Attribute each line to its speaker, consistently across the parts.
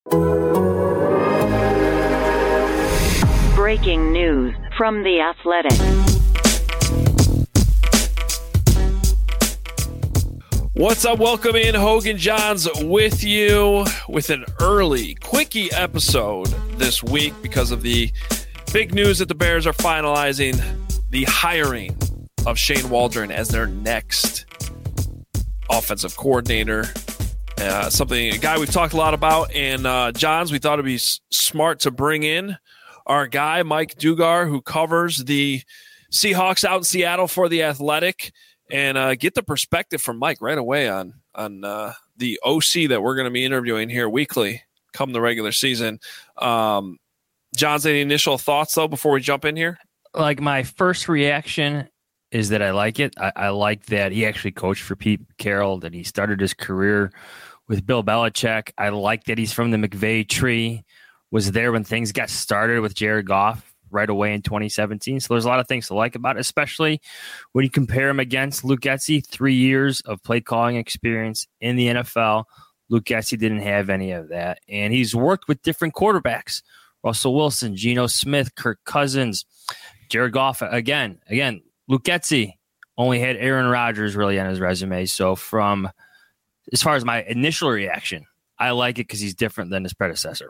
Speaker 1: Breaking news from The Athletic.
Speaker 2: What's up? Welcome in. Hogan Johns with you with an early quickie episode this week because of the big news that the Bears are finalizing the hiring of Shane Waldron as their next offensive coordinator. A guy we've talked a lot about. And Johns, we thought it'd be smart to bring in our guy, Mike Dugar, who covers the Seahawks out in Seattle for The Athletic, and get the perspective from Mike right away on the OC that we're going to be interviewing here weekly come the regular season. Johns, any initial thoughts, though, before we jump in here?
Speaker 3: Like, my first reaction is that I like it. I like that he actually coached for Pete Carroll, that he started his career with Bill Belichick. I like that he's from the McVay tree, was there when things got started with Jared Goff right away in 2017. So there's a lot of things to like about it, especially when you compare him against Luke Getsy, 3 years of play calling experience in the NFL. Luke Getsy didn't have any of that. And he's worked with different quarterbacks, Russell Wilson, Geno Smith, Kirk Cousins, Jared Goff. Again, Luke Getsy only had Aaron Rodgers really on his resume. So as far as my initial reaction, I like it because he's different than his predecessor.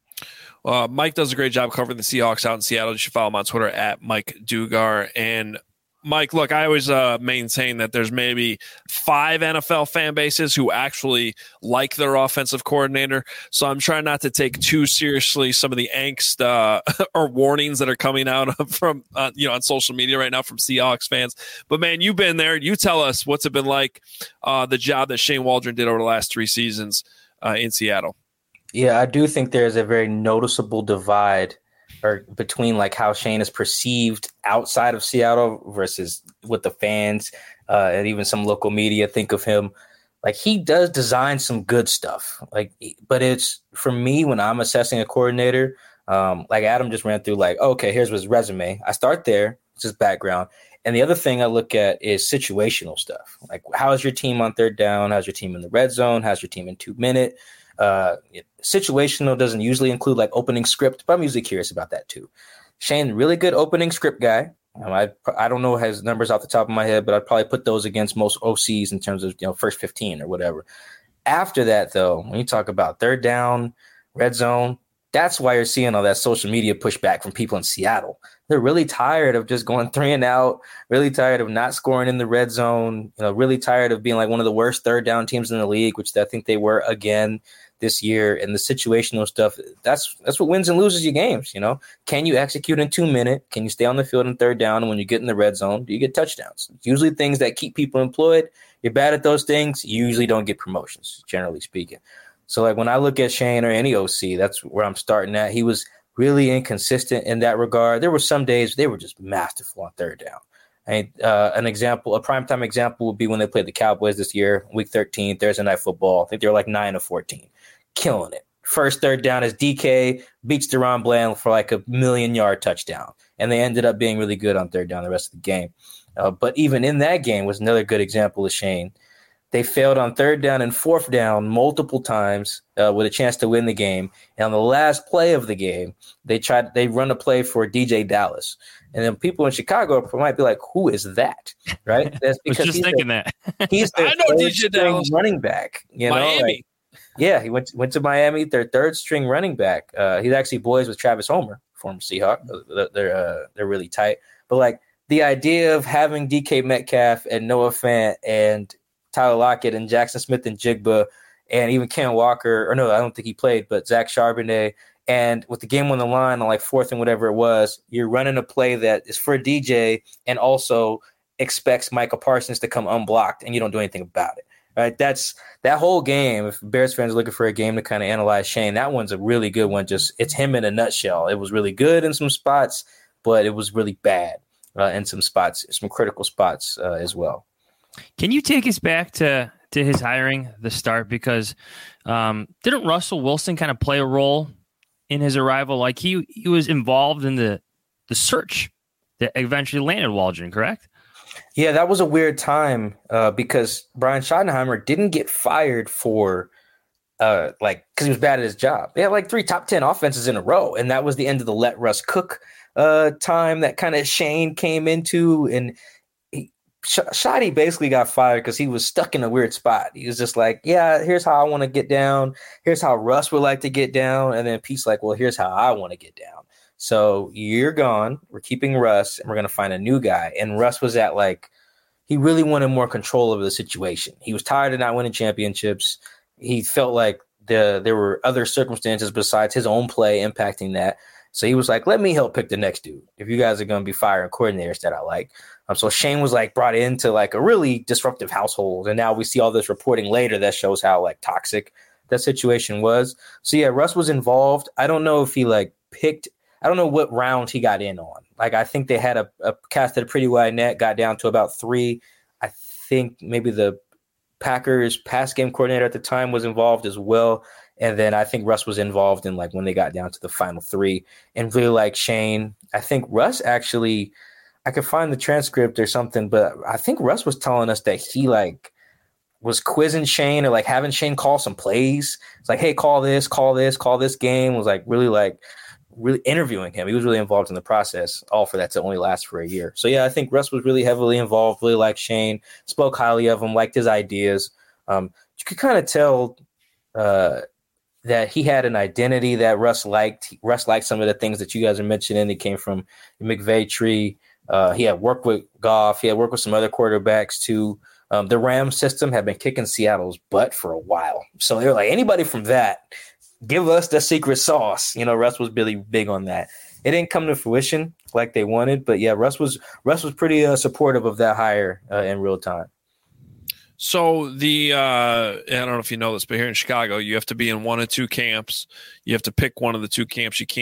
Speaker 2: Mike does a great job covering the Seahawks out in Seattle. You should follow him on Twitter at Mike Dugar. And Mike, look, I always maintain that there's maybe 5 NFL fan bases who actually like their offensive coordinator. So I'm trying not to take too seriously some of the angst or warnings that are coming out from on social media right now from Seahawks fans. But man, you've been there. You tell us what's it been like, the job that Shane Waldron did over the last 3 seasons in Seattle.
Speaker 4: Yeah, I do think there's a very noticeable divide between like how Shane is perceived outside of Seattle versus what the fans and even some local media think of him. Like, he does design some good stuff. But it's, for me, when I'm assessing a coordinator, like Adam just ran through, like, okay, here's his resume. I start there. It's his background. And the other thing I look at is situational stuff. Like, how's your team on third down? How's your team in the red zone? How's your team in 2-minute? Situational doesn't usually include like opening script, but I'm usually curious about that too. Shane, really good opening script guy. I don't know his numbers off the top of my head, but I'd probably put those against most OCs in terms of first 15 or whatever. After that, though, when you talk about third down, red zone, that's why you're seeing all that social media pushback from people in Seattle. They're really tired of just going 3 and out, really tired of not scoring in the red zone, really tired of being like one of the worst third down teams in the league, which I think they were again this year. And the situational stuff, that's what wins and loses your games. Can you execute in 2-minute? Can you stay on the field in third down? And when you get in the red zone, do you get touchdowns? It's usually things that keep people employed. You're bad at those things, you usually don't get promotions, generally speaking. So like when I look at Shane or any OC, that's where I'm starting at. He was really inconsistent in that regard. There were some days they were just masterful on third down. A primetime example would be when they played the Cowboys this year, week 13, Thursday Night Football. I think they were like 9 of 14, killing it. First third down is DK beats Deron Bland for like a 1,000,000-yard touchdown. And they ended up being really good on third down the rest of the game. But even in that game was another good example of Shane. They failed on third down and fourth down multiple times with a chance to win the game. And on the last play of the game, they run a play for DJ Dallas. And then people in Chicago might be like, who is that? Right? That's because
Speaker 3: he's that.
Speaker 4: He's their
Speaker 2: I know DJ Dallas
Speaker 4: running back.
Speaker 2: Miami.
Speaker 4: He went to Miami, their third string running back. He's actually boys with Travis Homer, former Seahawk. They're really tight. But like the idea of having DK Metcalf and Noah Fant and Tyler Lockett and Jackson Smith and Jigba and even Ken Walker, or no, I don't think he played, but Zach Charbonnet. And with the game on the line on like fourth and whatever it was, you're running a play that is for DJ and also expects Micah Parsons to come unblocked, and you don't do anything about it. Right? That's that whole game. If Bears fans are looking for a game to kind of analyze Shane, that one's a really good one. Just it's him in a nutshell. It was really good in some spots, but it was really bad in some spots, some critical spots as well.
Speaker 3: Can you take us back to his hiring, the start? Because didn't Russell Wilson kind of play a role in his arrival? Like he was involved in the search that eventually landed Waldron, correct?
Speaker 4: Yeah, that was a weird time because Brian Schottenheimer didn't get fired for like because he was bad at his job. They had like 3 top 10 offenses in a row, and that was the end of the let Russ cook time that kind of Shane came into, and Shotty basically got fired because he was stuck in a weird spot. He was just like, yeah, here's how I want to get down. Here's how Russ would like to get down. And then Pete's like, well, here's how I want to get down. So you're gone. We're keeping Russ, and we're going to find a new guy. And Russ was at like, he really wanted more control over the situation. He was tired of not winning championships. He felt like there were other circumstances besides his own play impacting that. So he was like, let me help pick the next dude if you guys are going to be firing coordinators that I like. So Shane was like brought into like a really disruptive household. And now we see all this reporting later that shows how like toxic that situation was. So yeah, Russ was involved. I don't know if he like picked, I don't know what round he got in on. Like, I think they had a casted a pretty wide net, got down to about 3. I think maybe the Packers pass game coordinator at the time was involved as well. And then I think Russ was involved in like when they got down to the final 3 and really like Shane. I think Russ actually, I could find the transcript or something, but I think Russ was telling us that he like was quizzing Shane or like having Shane call some plays. It's like, hey, call this game. Was like really interviewing him. He was really involved in the process, all for that to only last for a year. So yeah, I think Russ was really heavily involved, really liked Shane, spoke highly of him, liked his ideas. You could kind of tell that he had an identity that Russ liked. Russ liked some of the things that you guys are mentioning. He came from the McVay tree. He had worked with Goff. He had worked with some other quarterbacks too. The Rams system had been kicking Seattle's butt for a while. So they were like, anybody from that, give us the secret sauce. You know, Russ was really big on that. It didn't come to fruition like they wanted, but yeah, Russ was pretty supportive of that hire in real time.
Speaker 2: So I don't know if you know this, but here in Chicago, you have to be in one of 2 camps. You have to pick one of the 2 camps. You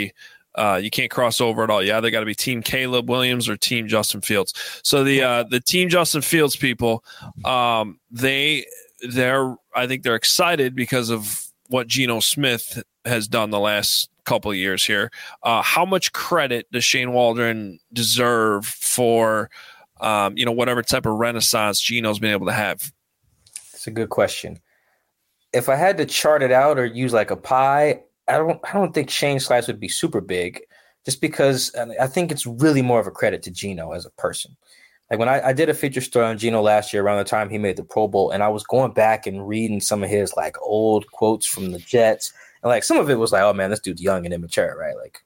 Speaker 2: can't cross over at all. You either got to be Team Caleb Williams or Team Justin Fields. So the Team Justin Fields people, I think they're excited because of what Geno Smith has done the last couple of years here. How much credit does Shane Waldron deserve for whatever type of renaissance Geno's been able to have?
Speaker 4: It's a good question. If I had to chart it out or use like a pie, I don't think Shane's slice would be super big, just because I think it's really more of a credit to Geno as a person. Like when I did a feature story on Geno last year around the time he made the Pro Bowl, and I was going back and reading some of his like old quotes from the Jets, and like some of it was like, oh man, this dude's young and immature, right? Like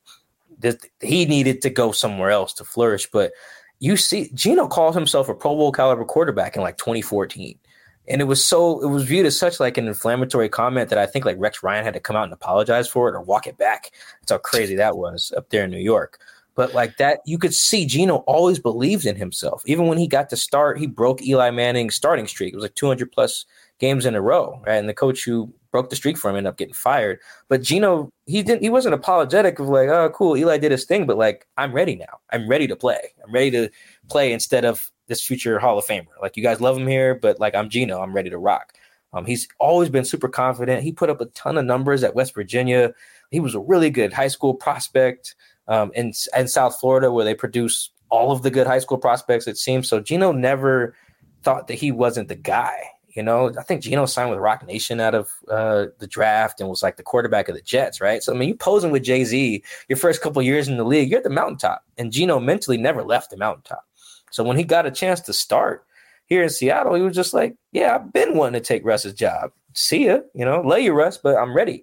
Speaker 4: he needed to go somewhere else to flourish. But you see, Geno called himself a Pro Bowl caliber quarterback in like 2014. And it was viewed as such like an inflammatory comment that I think like Rex Ryan had to come out and apologize for it or walk it back. That's how crazy that was up there in New York. But like that, you could see Geno always believed in himself. Even when he got to start, he broke Eli Manning's starting streak. It was like 200 plus games in a row, right? And the coach who broke the streak for him ended up getting fired. But Geno, he wasn't apologetic of like, oh, cool, Eli did his thing, but like, I'm ready now. I'm ready to play. I'm ready to play instead of this future Hall of Famer. Like, you guys love him here, but like, I'm Geno. I'm ready to rock. He's always been super confident. He put up a ton of numbers at West Virginia. He was a really good high school prospect in South Florida, where they produce all of the good high school prospects, it seems. So Geno never thought that he wasn't the guy. You know, I think Geno signed with Rock Nation out of the draft and was like the quarterback of the Jets, right? So, I mean, you posing with Jay-Z your first couple years in the league, you're at the mountaintop. And Geno mentally never left the mountaintop. So when he got a chance to start here in Seattle, he was just like, yeah, I've been wanting to take Russ's job. See ya, lay you, Russ, but I'm ready.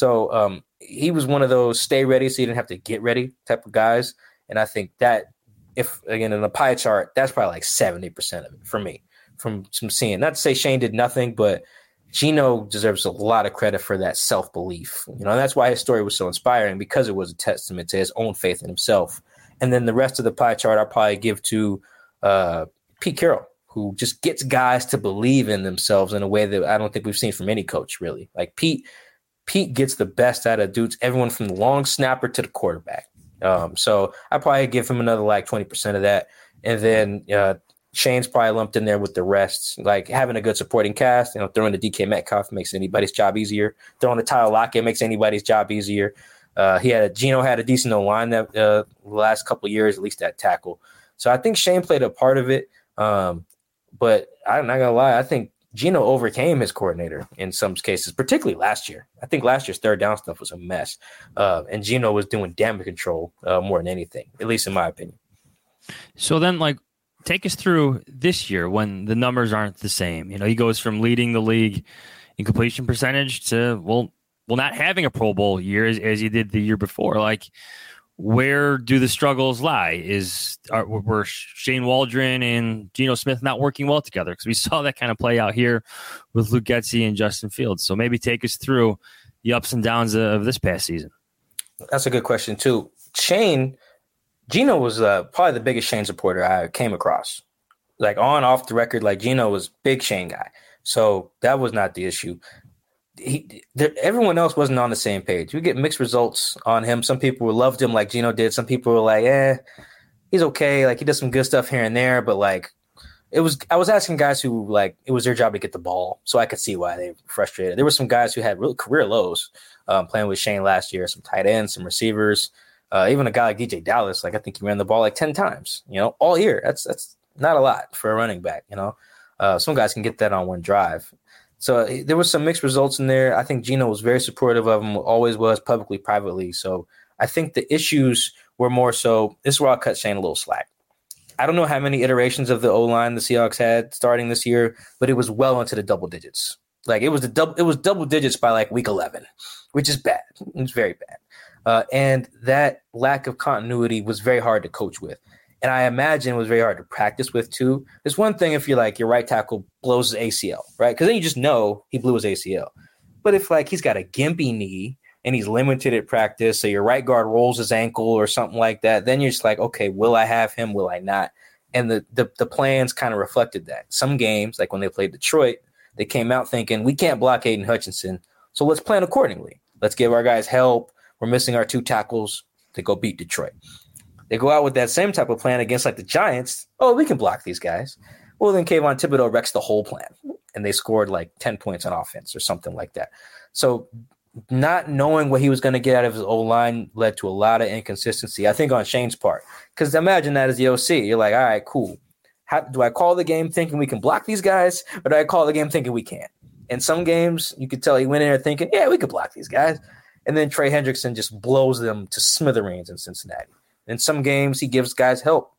Speaker 4: So he was one of those stay ready so you didn't have to get ready type of guys. And I think that, if again in the pie chart, that's probably like 70% of it for me from seeing. Not to say Shane did nothing, but Geno deserves a lot of credit for that self-belief. And that's why his story was so inspiring, because it was a testament to his own faith in himself. And then the rest of the pie chart I'll probably give to Pete Carroll, who just gets guys to believe in themselves in a way that I don't think we've seen from any coach, really. Like Pete gets the best out of dudes, everyone from the long snapper to the quarterback. So I probably give him another like 20% of that. And then Shane's probably lumped in there with the rest, like having a good supporting cast. Throwing the DK Metcalf makes anybody's job easier. Throwing the Tyler Lockett makes anybody's job easier. Geno had a decent O-line that the last couple of years, at least at tackle. So I think Shane played a part of it. But I'm not gonna lie, I think Gino overcame his coordinator in some cases, particularly last year. I think last year's third down stuff was a mess. And Gino was doing damage control more than anything, at least in my opinion.
Speaker 3: So then, take us through this year when the numbers aren't the same. He goes from leading the league in completion percentage to, not having a Pro Bowl year as he did the year before. Where do the struggles lie? Were Shane Waldron and Geno Smith not working well together? Because we saw that kind of play out here with Luke Getsy and Justin Fields. So maybe take us through the ups and downs of this past season.
Speaker 4: That's a good question too. Geno was probably the biggest Shane supporter I came across. On, off the record, Geno was big Shane guy. So that was not the issue. Everyone else wasn't on the same page. We get mixed results on him. Some people loved him like Geno did. Some people were like, he's okay. He does some good stuff here and there. But I was asking guys who it was their job to get the ball. So I could see why they were frustrated. There were some guys who had real career lows playing with Shane last year, some tight ends, some receivers, even a guy like DJ Dallas. I think he ran the ball 10 times, all year. That's not a lot for a running back. Some guys can get that on one drive. So there was some mixed results in there. I think Geno was very supportive of him, always was, publicly, privately. So I think the issues were more so, this is where I'll cut Shane a little slack. I don't know how many iterations of the O-line the Seahawks had starting this year, but it was well into the double digits. It was double digits by week 11, which is bad. It was very bad. And that lack of continuity was very hard to coach with. And I imagine it was very hard to practice with too. It's one thing if you're your right tackle blows his ACL, right? Because then you just know he blew his ACL. But if he's got a gimpy knee and he's limited at practice, so your right guard rolls his ankle or something like that, then you're just okay, will I have him? Will I not? And the plans kind of reflected that. Some games, when they played Detroit, they came out thinking, we can't block Aiden Hutchinson, so let's plan accordingly. Let's give our guys help. We're missing our 2 tackles to go beat Detroit. They go out with that same type of plan against the Giants. Oh, we can block these guys. Well, then Kayvon Thibodeau wrecks the whole plan, and they scored 10 points on offense or something like that. So not knowing what he was going to get out of his O-line led to a lot of inconsistency, I think, on Shane's part. Because imagine that as the OC. You're all right, cool. Do I call the game thinking we can block these guys, or do I call the game thinking we can't? In some games, you could tell he went in there thinking, yeah, we could block these guys. And then Trey Hendrickson just blows them to smithereens in Cincinnati. In some games, he gives guys help,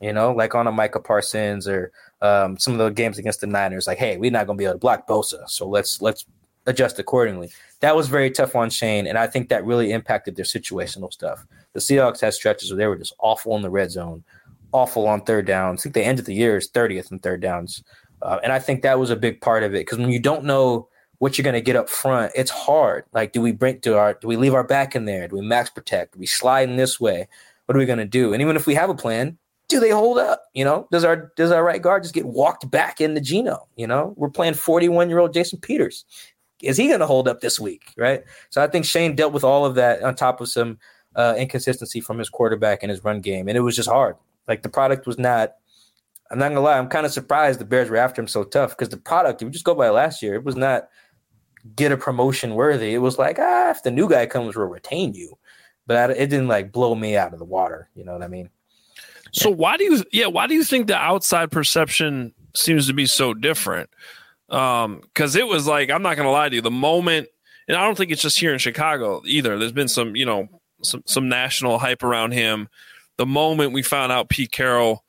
Speaker 4: on a Micah Parsons or some of the games against the Niners. Hey, we're not going to be able to block Bosa, so let's adjust accordingly. That was very tough on Shane, and I think that really impacted their situational stuff. The Seahawks had stretches where they were just awful in the red zone, awful on third downs. I think they ended the year as 30th in third downs, and I think that was a big part of it because when you don't know what you're going to get up front, it's hard. Do we leave our back in there? Do we max protect? Do we slide in this way? What are we going to do? And even if we have a plan, do they hold up? Does our right guard just get walked back into Geno? We're playing 41-year-old Jason Peters. Is he going to hold up this week? Right. So I think Shane dealt with all of that on top of some inconsistency from his quarterback and his run game. And it was just hard. The product was not, I'm not going to lie, I'm kind of surprised the Bears were after him so tough because the product, if we just go by last year, it was not get a promotion worthy. It was if the new guy comes, we'll retain you. But it didn't blow me out of the water. You know what I mean?
Speaker 2: So why do you think the outside perception seems to be so different? Because it was I'm not going to lie to you, the moment, and I don't think it's just here in Chicago either. There's been some, some national hype around him. The moment we found out Pete Carroll,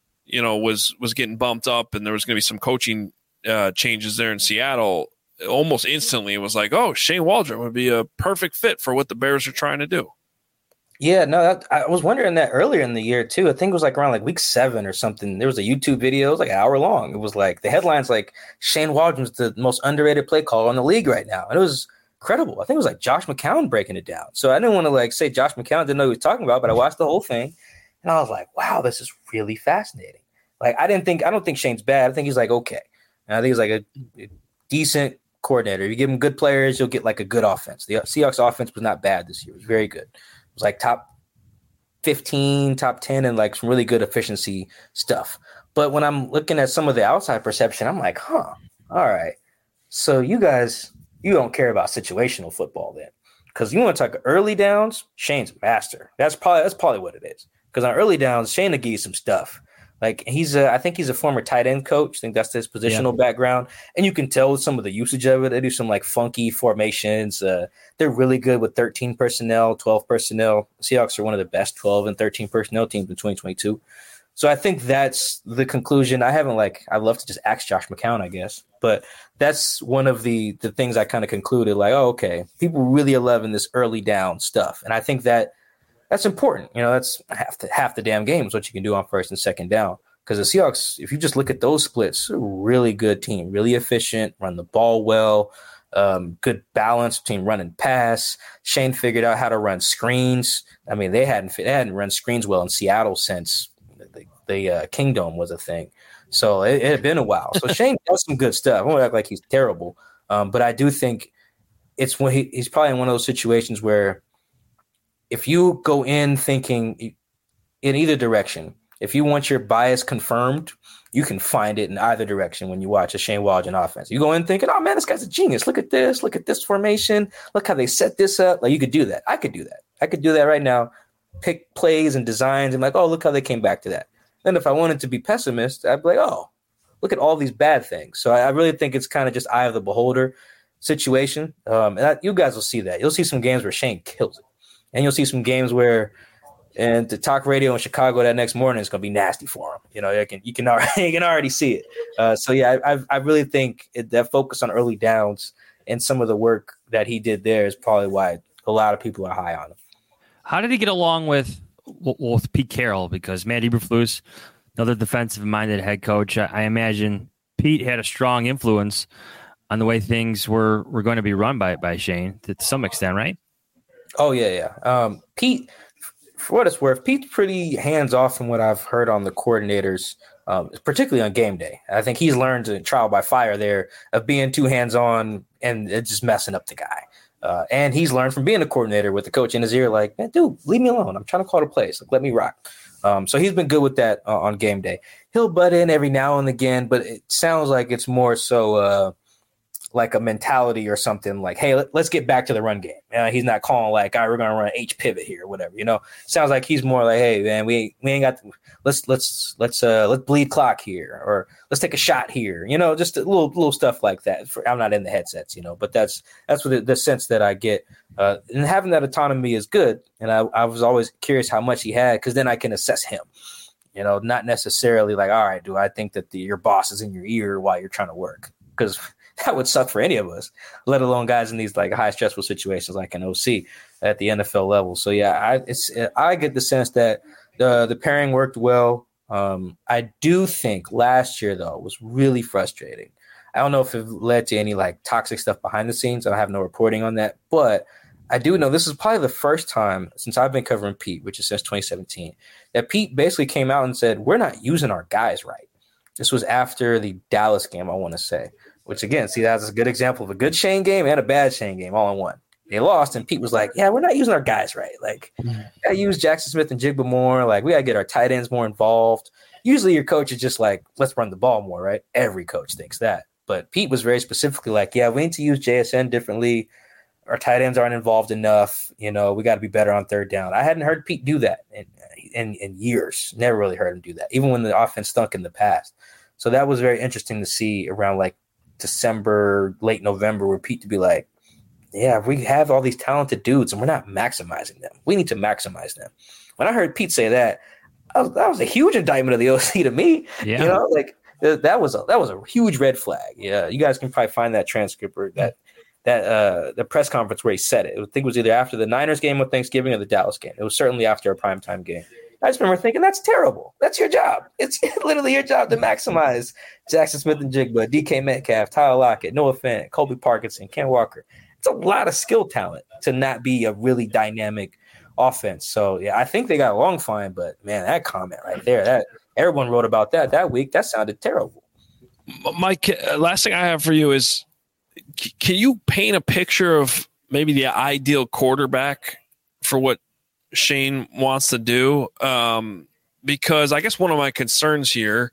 Speaker 2: was getting bumped up and there was going to be some coaching changes there in Seattle, almost instantly it was oh, Shane Waldron would be a perfect fit for what the Bears are trying to do.
Speaker 4: Yeah, no, I was wondering that earlier in the year too. I think it was around week 7 or something. There was a YouTube video. It was an hour long. It was the headlines Shane Waldron's the most underrated play caller in the league right now. And it was incredible. I think it was Josh McCown breaking it down. So I didn't want to say Josh McCown didn't know what he was talking about, but I watched the whole thing and I was wow, this is really fascinating. I don't think Shane's bad. I think he's okay. And I think he's a decent coordinator. If you give him good players, you'll get a good offense. The Seahawks offense was not bad this year. It was very good. It was top 15, top 10, and some really good efficiency stuff. But when I'm looking at some of the outside perception, I'm all right. So you guys, you don't care about situational football then. Because you want to talk early downs, Shane's a master. That's probably what it is. Because on early downs, Shane will give you some stuff. Like I think he's a former tight end coach. I think that's his positional background. And you can tell with some of the usage of it, they do some like funky formations. They're really good with 13 personnel, 12 personnel. Seahawks are one of the best 12 and 13 personnel teams in 2022. So I think that's the conclusion. I'd love to just ask Josh McCown, I guess. But that's one of the things I kind of concluded, like, oh, okay, people really are loving this early down stuff. And I think that's important. That's half the damn game is what you can do on first and second down. Because the Seahawks, if you just look at those splits, a really good team, really efficient, run the ball well, good balance between run and pass. Shane figured out how to run screens. I mean, they hadn't run screens well in Seattle since the Kingdom was a thing. So it had been a while. So Shane does some good stuff. I won't act like he's terrible, but I do think it's when he's probably in one of those situations where if you go in thinking in either direction, if you want your bias confirmed, you can find it in either direction when you watch a Shane Waldron offense. You go in thinking, oh, man, this guy's a genius. Look at this formation. Look how they set this up. Like, you could do that. I could do that. I could do that right now. Pick plays and designs and like, oh, look how they came back to that. Then if I wanted to be pessimist, I'd be like, oh, look at all these bad things. So I really think it's kind of just eye of the beholder situation. You guys will see that. You'll see some games where Shane kills it. And you'll see some games where and the talk radio in Chicago that next morning is going to be nasty for him. You can already see it. So yeah, I really think that focus on early downs and some of the work that he did there is probably why a lot of people are high on him.
Speaker 3: How did he get along with Pete Carroll? Because Matt Eberflus, another defensive-minded head coach, I imagine Pete had a strong influence on the way things were going to be run by Shane to some extent, right?
Speaker 4: Oh yeah. Pete, for what it's worth, Pete's pretty hands-off from what I've heard on the coordinators, particularly on game day. I think he's learned to trial by fire there of being too hands-on and just messing up the guy. And he's learned from being a coordinator with the coach in his ear, like, man, dude, leave me alone. I'm trying to call the plays. Like, let me rock. So he's been good with that on game day. He'll butt in every now and again, but it sounds like it's more so like a mentality or something like, hey, let's get back to the run game. He's not calling like, all right, we're going to run an H pivot here or whatever. Sounds like he's more like, hey, man, we ain't got let's bleed clock here, or let's take a shot here. Just a little stuff like that. I'm not in the headsets, but that's what the sense that I get. And having that autonomy is good. And I was always curious how much he had, because then I can assess him. Not necessarily like, all right, do I think that your boss is in your ear while you're trying to work? Because that would suck for any of us, let alone guys in these like high stressful situations like an OC at the NFL level. So yeah, I get the sense that the pairing worked well. I do think last year though was really frustrating. I don't know if it led to any like toxic stuff behind the scenes. I have no reporting on that, but I do know this is probably the first time since I've been covering Pete, which is since 2017, that Pete basically came out and said, we're not using our guys right. This was after the Dallas game, I want to say. Which, again, see, that's a good example of a good Shane game and a bad Shane game all in one. They lost, and Pete was like, yeah, we're not using our guys right. Like, got to use Jackson Smith and Jigba more. Like, we got to get our tight ends more involved. Usually your coach is just like, let's run the ball more, right? Every coach thinks that. But Pete was very specifically like, yeah, we need to use JSN differently. Our tight ends aren't involved enough. We got to be better on third down. I hadn't heard Pete do that in years. Never really heard him do that, even when the offense stunk in the past. So that was very interesting to see around, like, December, late November, where Pete to be like, yeah, we have all these talented dudes and we're not maximizing them. We need to maximize them. When I heard Pete say that, that was a huge indictment of the OC to me.
Speaker 3: Yeah.
Speaker 4: That was a huge red flag. Yeah, you guys can probably find that transcript or that the press conference where he said it. I think it was either after the Niners game with Thanksgiving or the Dallas game. It was certainly after a primetime game. I just remember thinking, that's terrible. That's your job. It's literally your job to maximize Jackson Smith and Jigba, DK Metcalf, Tyler Lockett, Noah Fant, Colby Parkinson, Ken Walker. It's a lot of skill talent to not be a really dynamic offense. So, yeah, I think they got along fine. But, man, that comment right there, that everyone wrote about that week, that sounded terrible.
Speaker 2: Mike, last thing I have for you is, can you paint a picture of maybe the ideal quarterback for what Shane wants to do? Because I guess one of my concerns here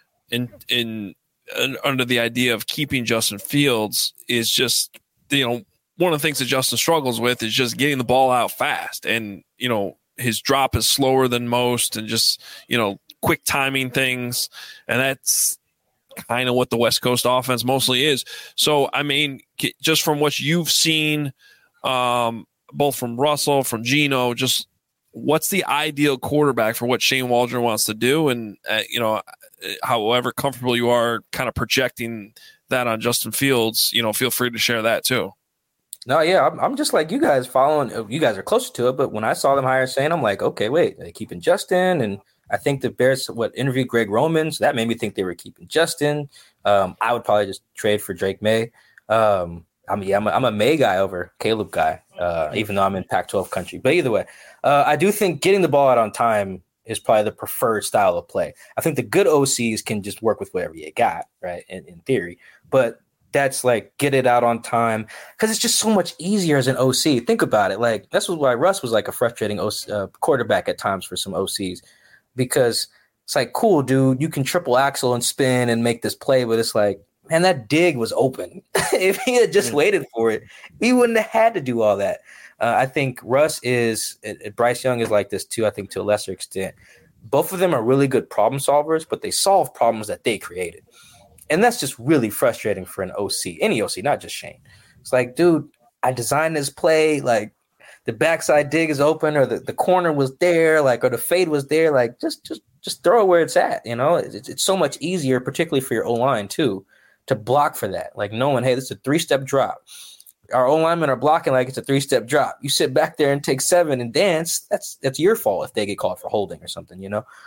Speaker 2: in under the idea of keeping Justin Fields is just, one of the things that Justin struggles with is just getting the ball out fast. And, his drop is slower than most, and just, quick timing things, and that's kind of what the West Coast offense mostly is. So, I mean, just from what you've seen, both from Russell, from Geno, just what's the ideal quarterback for what Shane Waldron wants to do? And, however comfortable you are kind of projecting that on Justin Fields, feel free to share that too.
Speaker 4: No, yeah, I'm just like you guys following. You guys are closer to it, but when I saw them hire Shane, I'm like, okay, wait, are they keeping Justin? And I think the Bears interviewed Greg Roman, so that made me think they were keeping Justin. I would probably just trade for Drake May. I'm a May guy over Caleb guy, even though I'm in Pac-12 country. But either way, I do think getting the ball out on time is probably the preferred style of play. I think the good OCs can just work with whatever you got, right, in theory. But that's like get it out on time because it's just so much easier as an OC. Think about it. Like that's why Russ was like a frustrating quarterback at times for some OCs because it's like, cool, dude, you can triple axle and spin and make this play, but it's like, man, that dig was open. If he had just waited for it, he wouldn't have had to do all that. I think Russ Bryce Young is like this too, I think to a lesser extent. Both of them are really good problem solvers, but they solve problems that they created. And that's just really frustrating for an OC, any OC, not just Shane. It's like, dude, I designed this play, like the backside dig is open or the corner was there, like, or the fade was there. Like, just throw it where it's at, It's so much easier, particularly for your O-line too, to block for that. Like knowing, hey, this is a 3-step drop. Our O-linemen are blocking like it's a 3-step drop. You sit back there and take 7 and dance, that's your fault if they get called for holding or something,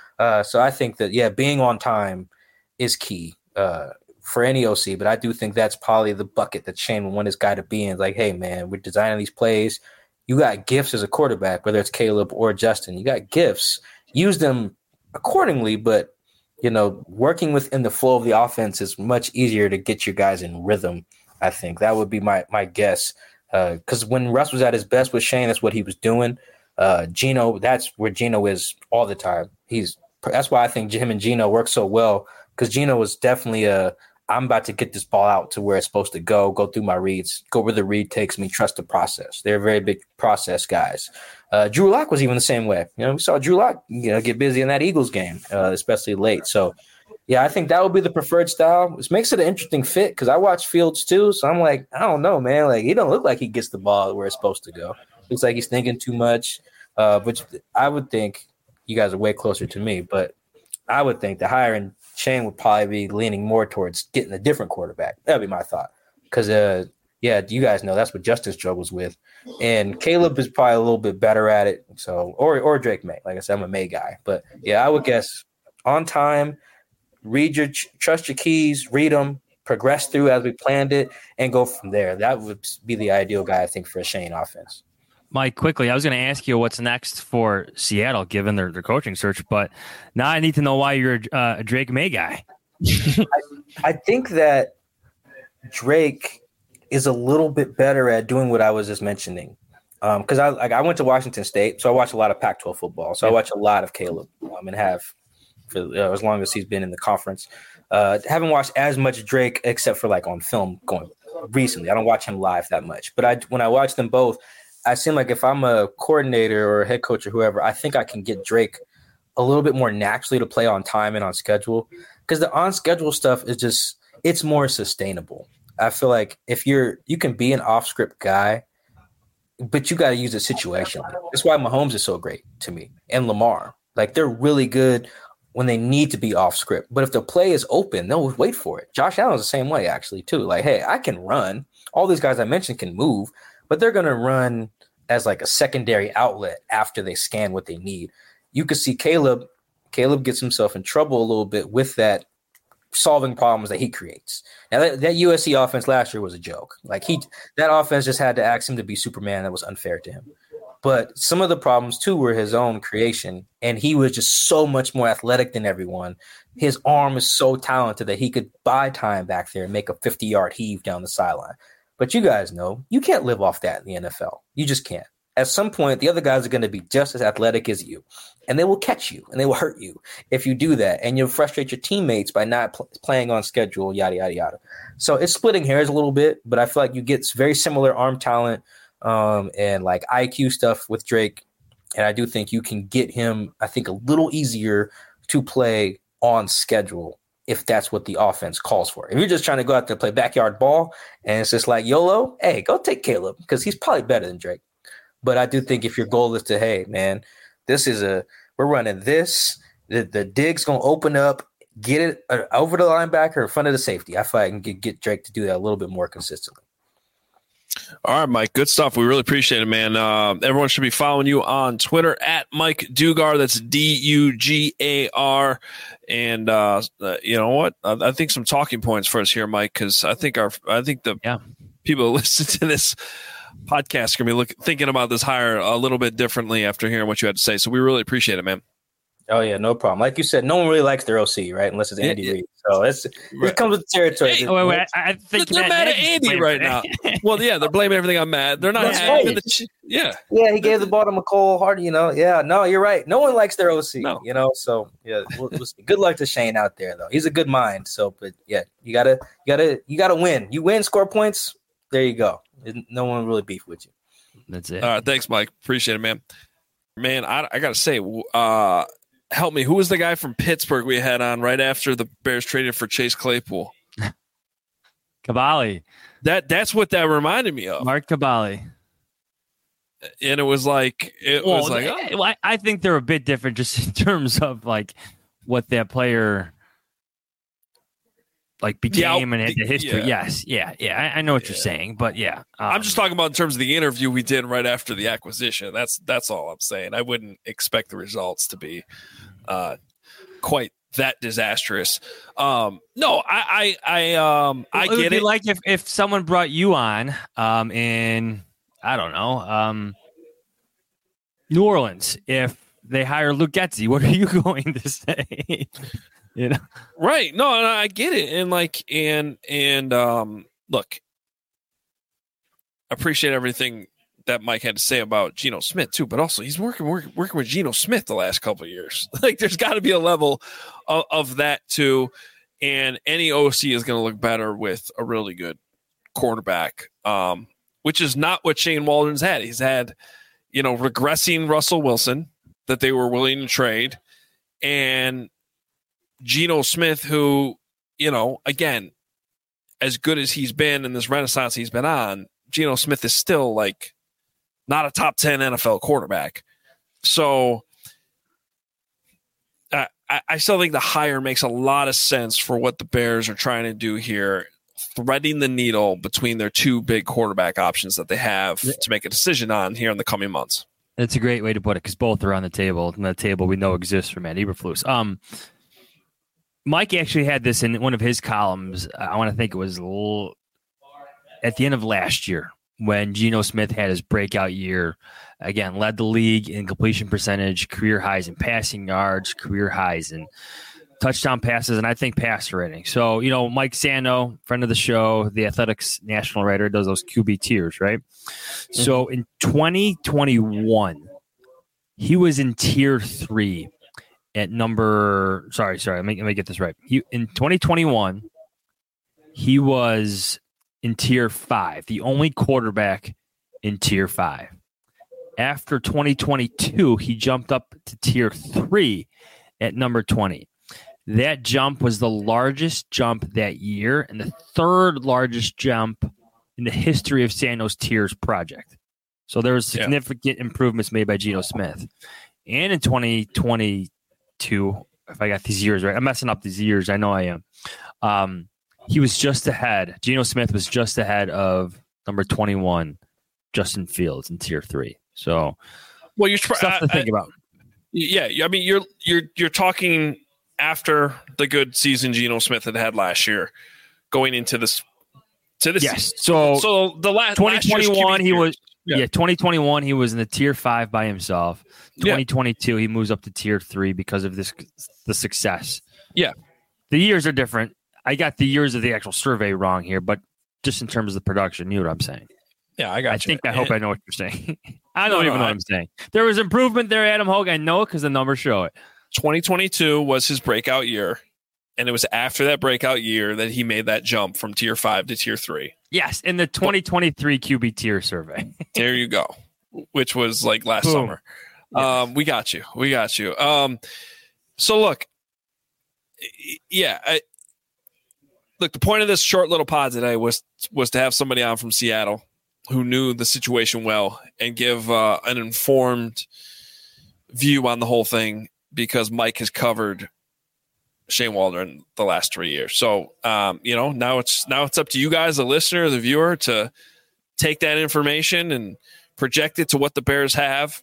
Speaker 4: So I think that, yeah, being on time is key. For any OC, but I do think that's probably the bucket that Shane would want his guy to be in. Like, hey, man, we're designing these plays. You got gifts as a quarterback, whether it's Caleb or Justin. You got gifts. Use them accordingly, but, working within the flow of the offense is much easier to get you guys in rhythm, I think. That would be my guess. Because when Russ was at his best with Shane, that's what he was doing. Geno, that's where Geno is all the time. That's why I think him and Geno work so well, because Geno was definitely I'm about to get this ball out to where it's supposed to go through my reads, go where the read takes me, trust the process. They're very big process guys. Drew Lock was even the same way. We saw Drew Lock, get busy in that Eagles game, especially late. So, yeah, I think that would be the preferred style. Which makes it an interesting fit because I watch Fields too. So I'm like, I don't know, man. Like, he don't look like he gets the ball where it's supposed to go. Looks like he's thinking too much, which I would think you guys are way closer to me. But I would think the hiring Shane would probably be leaning more towards getting a different quarterback. That'd be my thought. Because, you guys know that's what Justin struggles with. And Caleb is probably a little bit better at it. So, or Drake May. Like I said, I'm a May guy. But, yeah, I would guess on time, trust your keys, read them, progress through as we planned it, and go from there. That would be the ideal guy, I think, for a Shane offense.
Speaker 3: Mike, quickly, I was going to ask you what's next for Seattle, given their coaching search, but now I need to know why you're a Drake May guy.
Speaker 4: I think that Drake is a little bit better at doing what I was just mentioning. Because I went to Washington State, so I watch a lot of Pac-12 football. So I watch a lot of Caleb and have for as long as he's been in the conference. Haven't watched as much Drake except for like on film going recently. I don't watch him live that much. But when I watch them both, I seem like if I'm a coordinator or a head coach or whoever, I think I can get Drake a little bit more naturally to play on time and on schedule. Because the on-schedule stuff is just – it's more sustainable. I feel like if you can be an off-script guy, but you got to use it situationally. That's why Mahomes is so great to me and Lamar. Like, they're really good when they need to be off-script. But if the play is open, they'll wait for it. Josh Allen's the same way, actually, too. Like, hey, I can run. All these guys I mentioned can move. But they're going to run as like a secondary outlet after they scan what they need. You could see Caleb gets himself in trouble a little bit with that solving problems that he creates. Now that USC offense last year was a joke. Like that offense just had to ask him to be Superman. That was unfair to him. But some of the problems too were his own creation. And he was just so much more athletic than everyone. His arm is so talented that he could buy time back there and make a 50-yard heave down the sideline. But you guys know you can't live off that in the NFL. You just can't. At some point, the other guys are going to be just as athletic as you, and they will catch you and they will hurt you if you do that. And you'll frustrate your teammates by not playing on schedule, yada, yada, yada. So it's splitting hairs a little bit, but I feel like you get very similar arm talent and like IQ stuff with Drake. And I do think you can get him, I think, a little easier to play on schedule if that's what the offense calls for. If you're just trying to go out there and play backyard ball and it's just like YOLO, hey, go take Caleb because he's probably better than Drake. But I do think if your goal is to, hey, man, we're running this, the dig's going to open up, get it over the linebacker in front of the safety. I feel like I can get Drake to do that a little bit more consistently.
Speaker 2: All right, Mike. Good stuff. We really appreciate it, man. Everyone should be following you on Twitter at Mike Dugar. That's DUGAR. And you know what? I think some talking points for us here, Mike, because I think the people who listen to this podcast are going to be thinking about this hire a little bit differently after hearing what you had to say. So we really appreciate it, man.
Speaker 4: Oh, yeah, no problem. Like you said, no one really likes their OC, right? Unless it's Andy Reid. So it comes with the territory.
Speaker 3: Hey, I think
Speaker 2: they're mad at Andy right now. Well, yeah, they're blaming everything on Matt. They're not happy. Yeah, he gave the ball to McCole Hard, Yeah, no, you're right. No one likes their OC, So, yeah, we'll see. Good luck to Shane out there, though. He's a good mind. So, but, yeah, you gotta win. You win, score points, there you go. No one really beef with you.
Speaker 3: That's it.
Speaker 2: All right, thanks, Mike. Appreciate it, man. Man, I got to say, help me. Who was the guy from Pittsburgh we had on right after the Bears traded for Chase Claypool?
Speaker 3: Cavalli.
Speaker 2: That's what that reminded me of.
Speaker 3: Mark Cavalli.
Speaker 2: And it was like
Speaker 3: I think they're a bit different just in terms of like what that player like became and the history. Yeah. I know what you're saying, but yeah.
Speaker 2: I'm just talking about in terms of the interview we did right after the acquisition. That's all I'm saying. I wouldn't expect the results to be quite that disastrous. No, I get it.
Speaker 3: Like if someone brought you on in I don't know New Orleans, if they hire Luke Getsy, what are you going to say?
Speaker 2: Right? No, I get it, and look, I appreciate everything that Mike had to say about Geno Smith too, but also he's working with Geno Smith the last couple of years. Like, there's got to be a level of that too, and any OC is going to look better with a really good quarterback, which is not what Shane Waldron's had. He's had, regressing Russell Wilson that they were willing to trade, and Geno Smith, who, again, as good as he's been in this renaissance he's been on, Geno Smith is still like not a top 10 NFL quarterback. So I still think the hire makes a lot of sense for what the Bears are trying to do here, threading the needle between their two big quarterback options that they have to make a decision on here in the coming months.
Speaker 3: That's a great way to put it because both are on the table, and the table we know exists for Matt Eberflus. Mike actually had this in one of his columns. I want to think it was at the end of last year when Geno Smith had his breakout year. Again, led the league in completion percentage, career highs in passing yards, career highs in touchdown passes, and I think passer rating. So, Mike Sando, friend of the show, the Athletics national writer, does those QB tiers, right? Mm-hmm. So in 2021, he was in tier 3. At number, sorry, let me get this right. In 2021, he was in tier 5, the only quarterback in tier 5. After 2022, he jumped up to tier 3 at number 20. That jump was the largest jump that year and the third largest jump in the history of Sando's tiers project. So there was significant improvements made by Geno Smith. And in 2022, if I got these years right, I'm messing up these years. I know I am. He was just ahead. Geno Smith was just ahead of number 21, Justin Fields in tier 3. So,
Speaker 2: well, you're
Speaker 3: stuff to think about.
Speaker 2: Yeah, I mean, you're talking after the good season Geno Smith had last year, going into this.
Speaker 3: Yes. So
Speaker 2: the last
Speaker 3: 2021 he was. Yeah, 2021 he was in the tier 5 by himself. 2022 he moves up to tier 3 because of the success.
Speaker 2: Yeah,
Speaker 3: the years are different. I got the years of the actual survey wrong here, but just in terms of the production, you know what I'm saying.
Speaker 2: Yeah, I got you.
Speaker 3: I hope I know what you're saying. I don't even know what I'm saying. There was improvement there, Adam Hogue. I know it because the numbers show it.
Speaker 2: 2022 was his breakout year, and it was after that breakout year that he made that jump from tier 5 to tier 3.
Speaker 3: Yes, in the 2023 QB tier survey.
Speaker 2: There you go, which was like last summer. Yes. We got you. So look, yeah. Look, the point of this short little pod today was to have somebody on from Seattle who knew the situation well and give an informed view on the whole thing, because Mike has covered Shane Waldron the last 3 years. So, now it's up to you guys, the listener, the viewer, to take that information and project it to what the Bears have.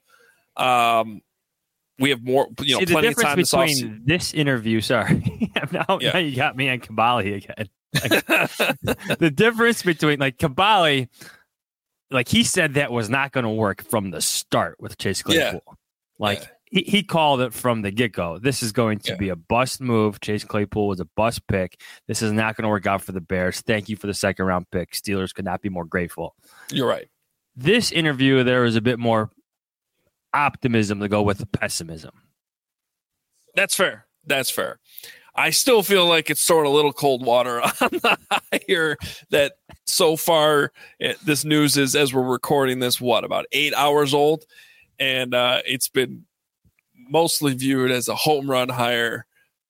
Speaker 2: We have more, plenty of time this offseason.
Speaker 3: This interview, sorry. now you got me on Caballi again. The difference between Caballi, he said that was not going to work from the start with Chase Claypool. He called it from the get-go. This is going to be a bust move. Chase Claypool was a bust pick. This is not going to work out for the Bears. Thank you for the second-round pick. Steelers could not be more grateful.
Speaker 2: You're right.
Speaker 3: This interview, there was a bit more optimism to go with the pessimism.
Speaker 2: That's fair. I still feel like it's sort of a little cold water on the hire that so far this news is, as we're recording this, about 8 hours old? And it's been mostly viewed as a home run hire.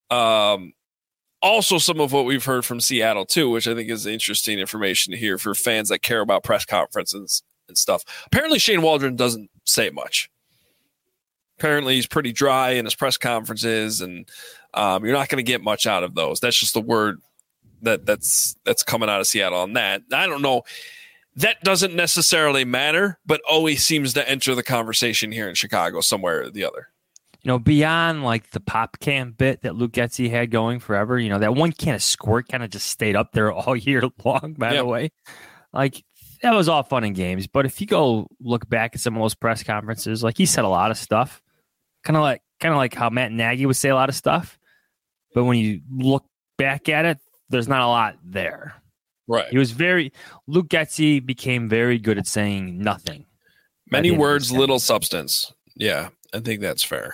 Speaker 2: Also, some of what we've heard from Seattle, too, which I think is interesting information to hear for fans that care about press conferences and stuff. Apparently, Shane Waldron doesn't say much. Apparently, he's pretty dry in his press conferences, and you're not going to get much out of those. That's just the word that's coming out of Seattle on that. I don't know. That doesn't necessarily matter, but always seems to enter the conversation here in Chicago somewhere or the other.
Speaker 3: Beyond the pop can bit that Luke Getsy had going forever, that one can of squirt kind of just stayed up there all year long, by the way. That was all fun and games. But if you go look back at some of those press conferences, he said a lot of stuff, kind of like how Matt Nagy would say a lot of stuff. But when you look back at it, there's not a lot there.
Speaker 2: Right.
Speaker 3: Luke Getsy became very good at saying nothing.
Speaker 2: Many words, little substance. Yeah, I think that's fair.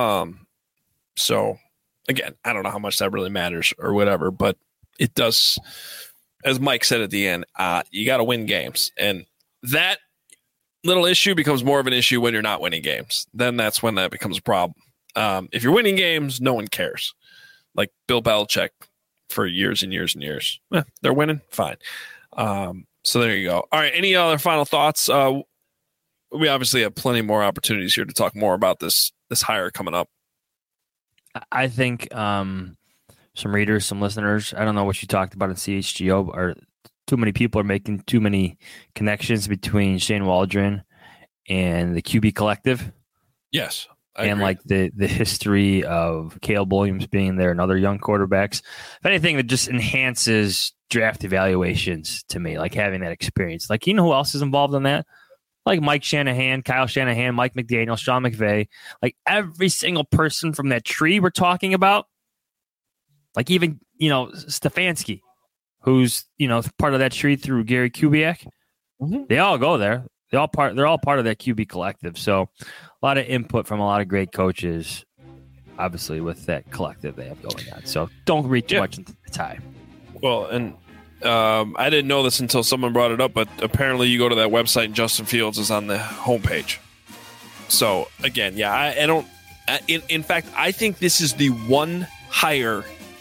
Speaker 2: So again, I don't know how much that really matters or whatever, but it does, as Mike said at the end, you got to win games. And that little issue becomes more of an issue when you're not winning games. Then that's when that becomes a problem. If you're winning games, no one cares. Like Bill Belichick for years and years and years. They're winning. Fine. So there you go. All right. Any other final thoughts? We obviously have plenty more opportunities here to talk more about this hire coming up.
Speaker 3: I think some readers, some listeners, I don't know what you talked about in CHGO, or too many people are making too many connections between Shane Waldron and the QB collective.
Speaker 2: Yes.
Speaker 3: And the history of Caleb Williams being there and other young quarterbacks. If anything, that just enhances draft evaluations to me, having that experience. You know who else is involved in that? Mike Shanahan, Kyle Shanahan, Mike McDaniel, Sean McVay. Every single person from that tree we're talking about. Even, Stefanski, who's, part of that tree through Gary Kubiak. Mm-hmm. They all go there. They're all part of that QB collective. So a lot of input from a lot of great coaches, obviously, with that collective they have going on. So don't read too much into the tie.
Speaker 2: Well, and I didn't know this until someone brought it up, but apparently you go to that website and Justin Fields is on the homepage. So again, I don't. In fact, I think this is the one hire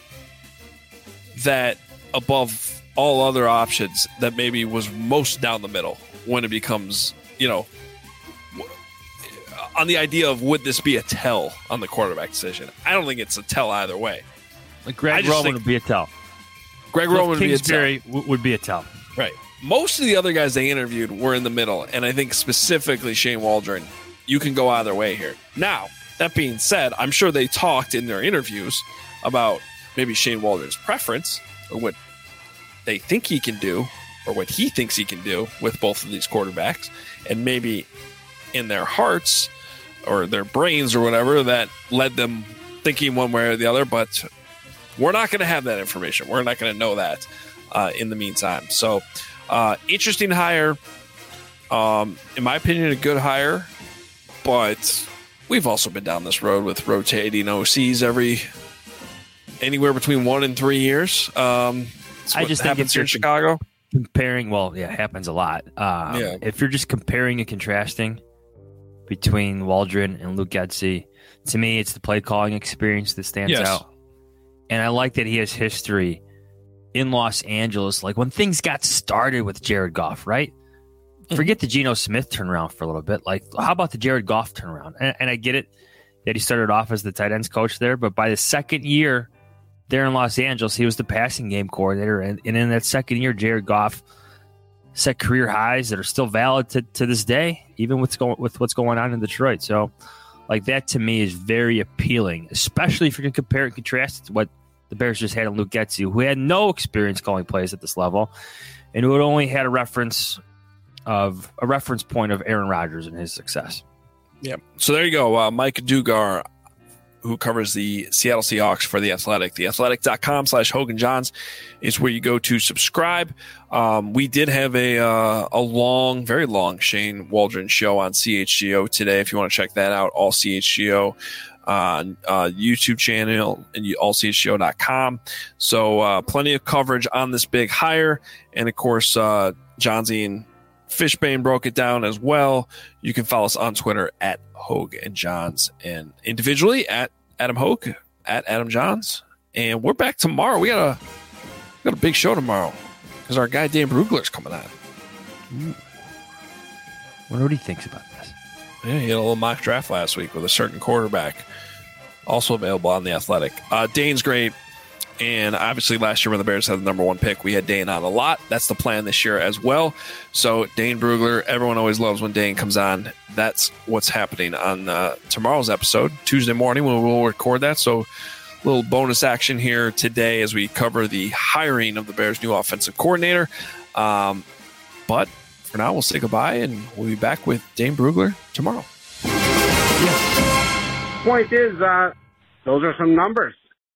Speaker 2: that, above all other options, that maybe was most down the middle when it becomes, on the idea of would this be a tell on the quarterback decision. I don't think it's a tell either way.
Speaker 3: Greg Roman would be a tell.
Speaker 2: Greg Roman would
Speaker 3: be a tell.
Speaker 2: Right. Most of the other guys they interviewed were in the middle, and I think specifically Shane Waldron, you can go either way here. Now, that being said, I'm sure they talked in their interviews about maybe Shane Waldron's preference or what they think he can do or what he thinks he can do with both of these quarterbacks, and maybe in their hearts or their brains or whatever that led them thinking one way or the other, but we're not going to have that information. We're not going to know that in the meantime. So, interesting hire. In my opinion, a good hire, but we've also been down this road with rotating OCs anywhere between 1 and 3 years.
Speaker 3: I just think
Speaker 2: it's here in Chicago.
Speaker 3: Comparing, it happens a lot. If you're just comparing and contrasting between Waldron and Luke Getsy, to me, it's the play calling experience that stands out. And I like that he has history in Los Angeles. Like when things got started with Jared Goff, right? Forget the Geno Smith turnaround for a little bit. Like, how about the Jared Goff turnaround? And I get it that he started off as the tight ends coach there, but by the second year there in Los Angeles, he was the passing game coordinator. And in that second year, Jared Goff set career highs that are still valid to this day, even with what's going on in Detroit. So, like, that to me is very appealing, especially if you can compare and contrast it to what the Bears just had in Luke Getsy, who had no experience calling plays at this level and who had only had a reference point of Aaron Rodgers and his success.
Speaker 2: Yeah. So there you go. Mike Dugar, who covers the Seattle Seahawks for The Athletic. TheAthletic.com/Hogan Johns is where you go to subscribe. We did have a long, very long Shane Waldron show on CHGO today. If you want to check that out, all CHGO on YouTube channel and allchgo.com. So plenty of coverage on this big hire. And of course, Johnsy and Fishbane broke it down as well. You can follow us on Twitter at Hogue and Johns, and individually at Adam Hogue, at Adam Johns. And we're back tomorrow. We got a big show tomorrow because our guy Dan Brugler's coming on.
Speaker 3: Wonder what he thinks about this.
Speaker 2: Yeah, he had a little mock draft last week with a certain quarterback, also available on The Athletic. Dane's great. And obviously last year when the Bears had the number 1 pick, we had Dane on a lot. That's the plan this year as well. So Dane Brugler, everyone always loves when Dane comes on. That's what's happening on tomorrow's episode, Tuesday morning when we'll record that. So a little bonus action here today as we cover the hiring of the Bears' new offensive coordinator. But for now, we'll say goodbye, and we'll be back with Dane Brugler tomorrow.
Speaker 5: Point is, those are some numbers.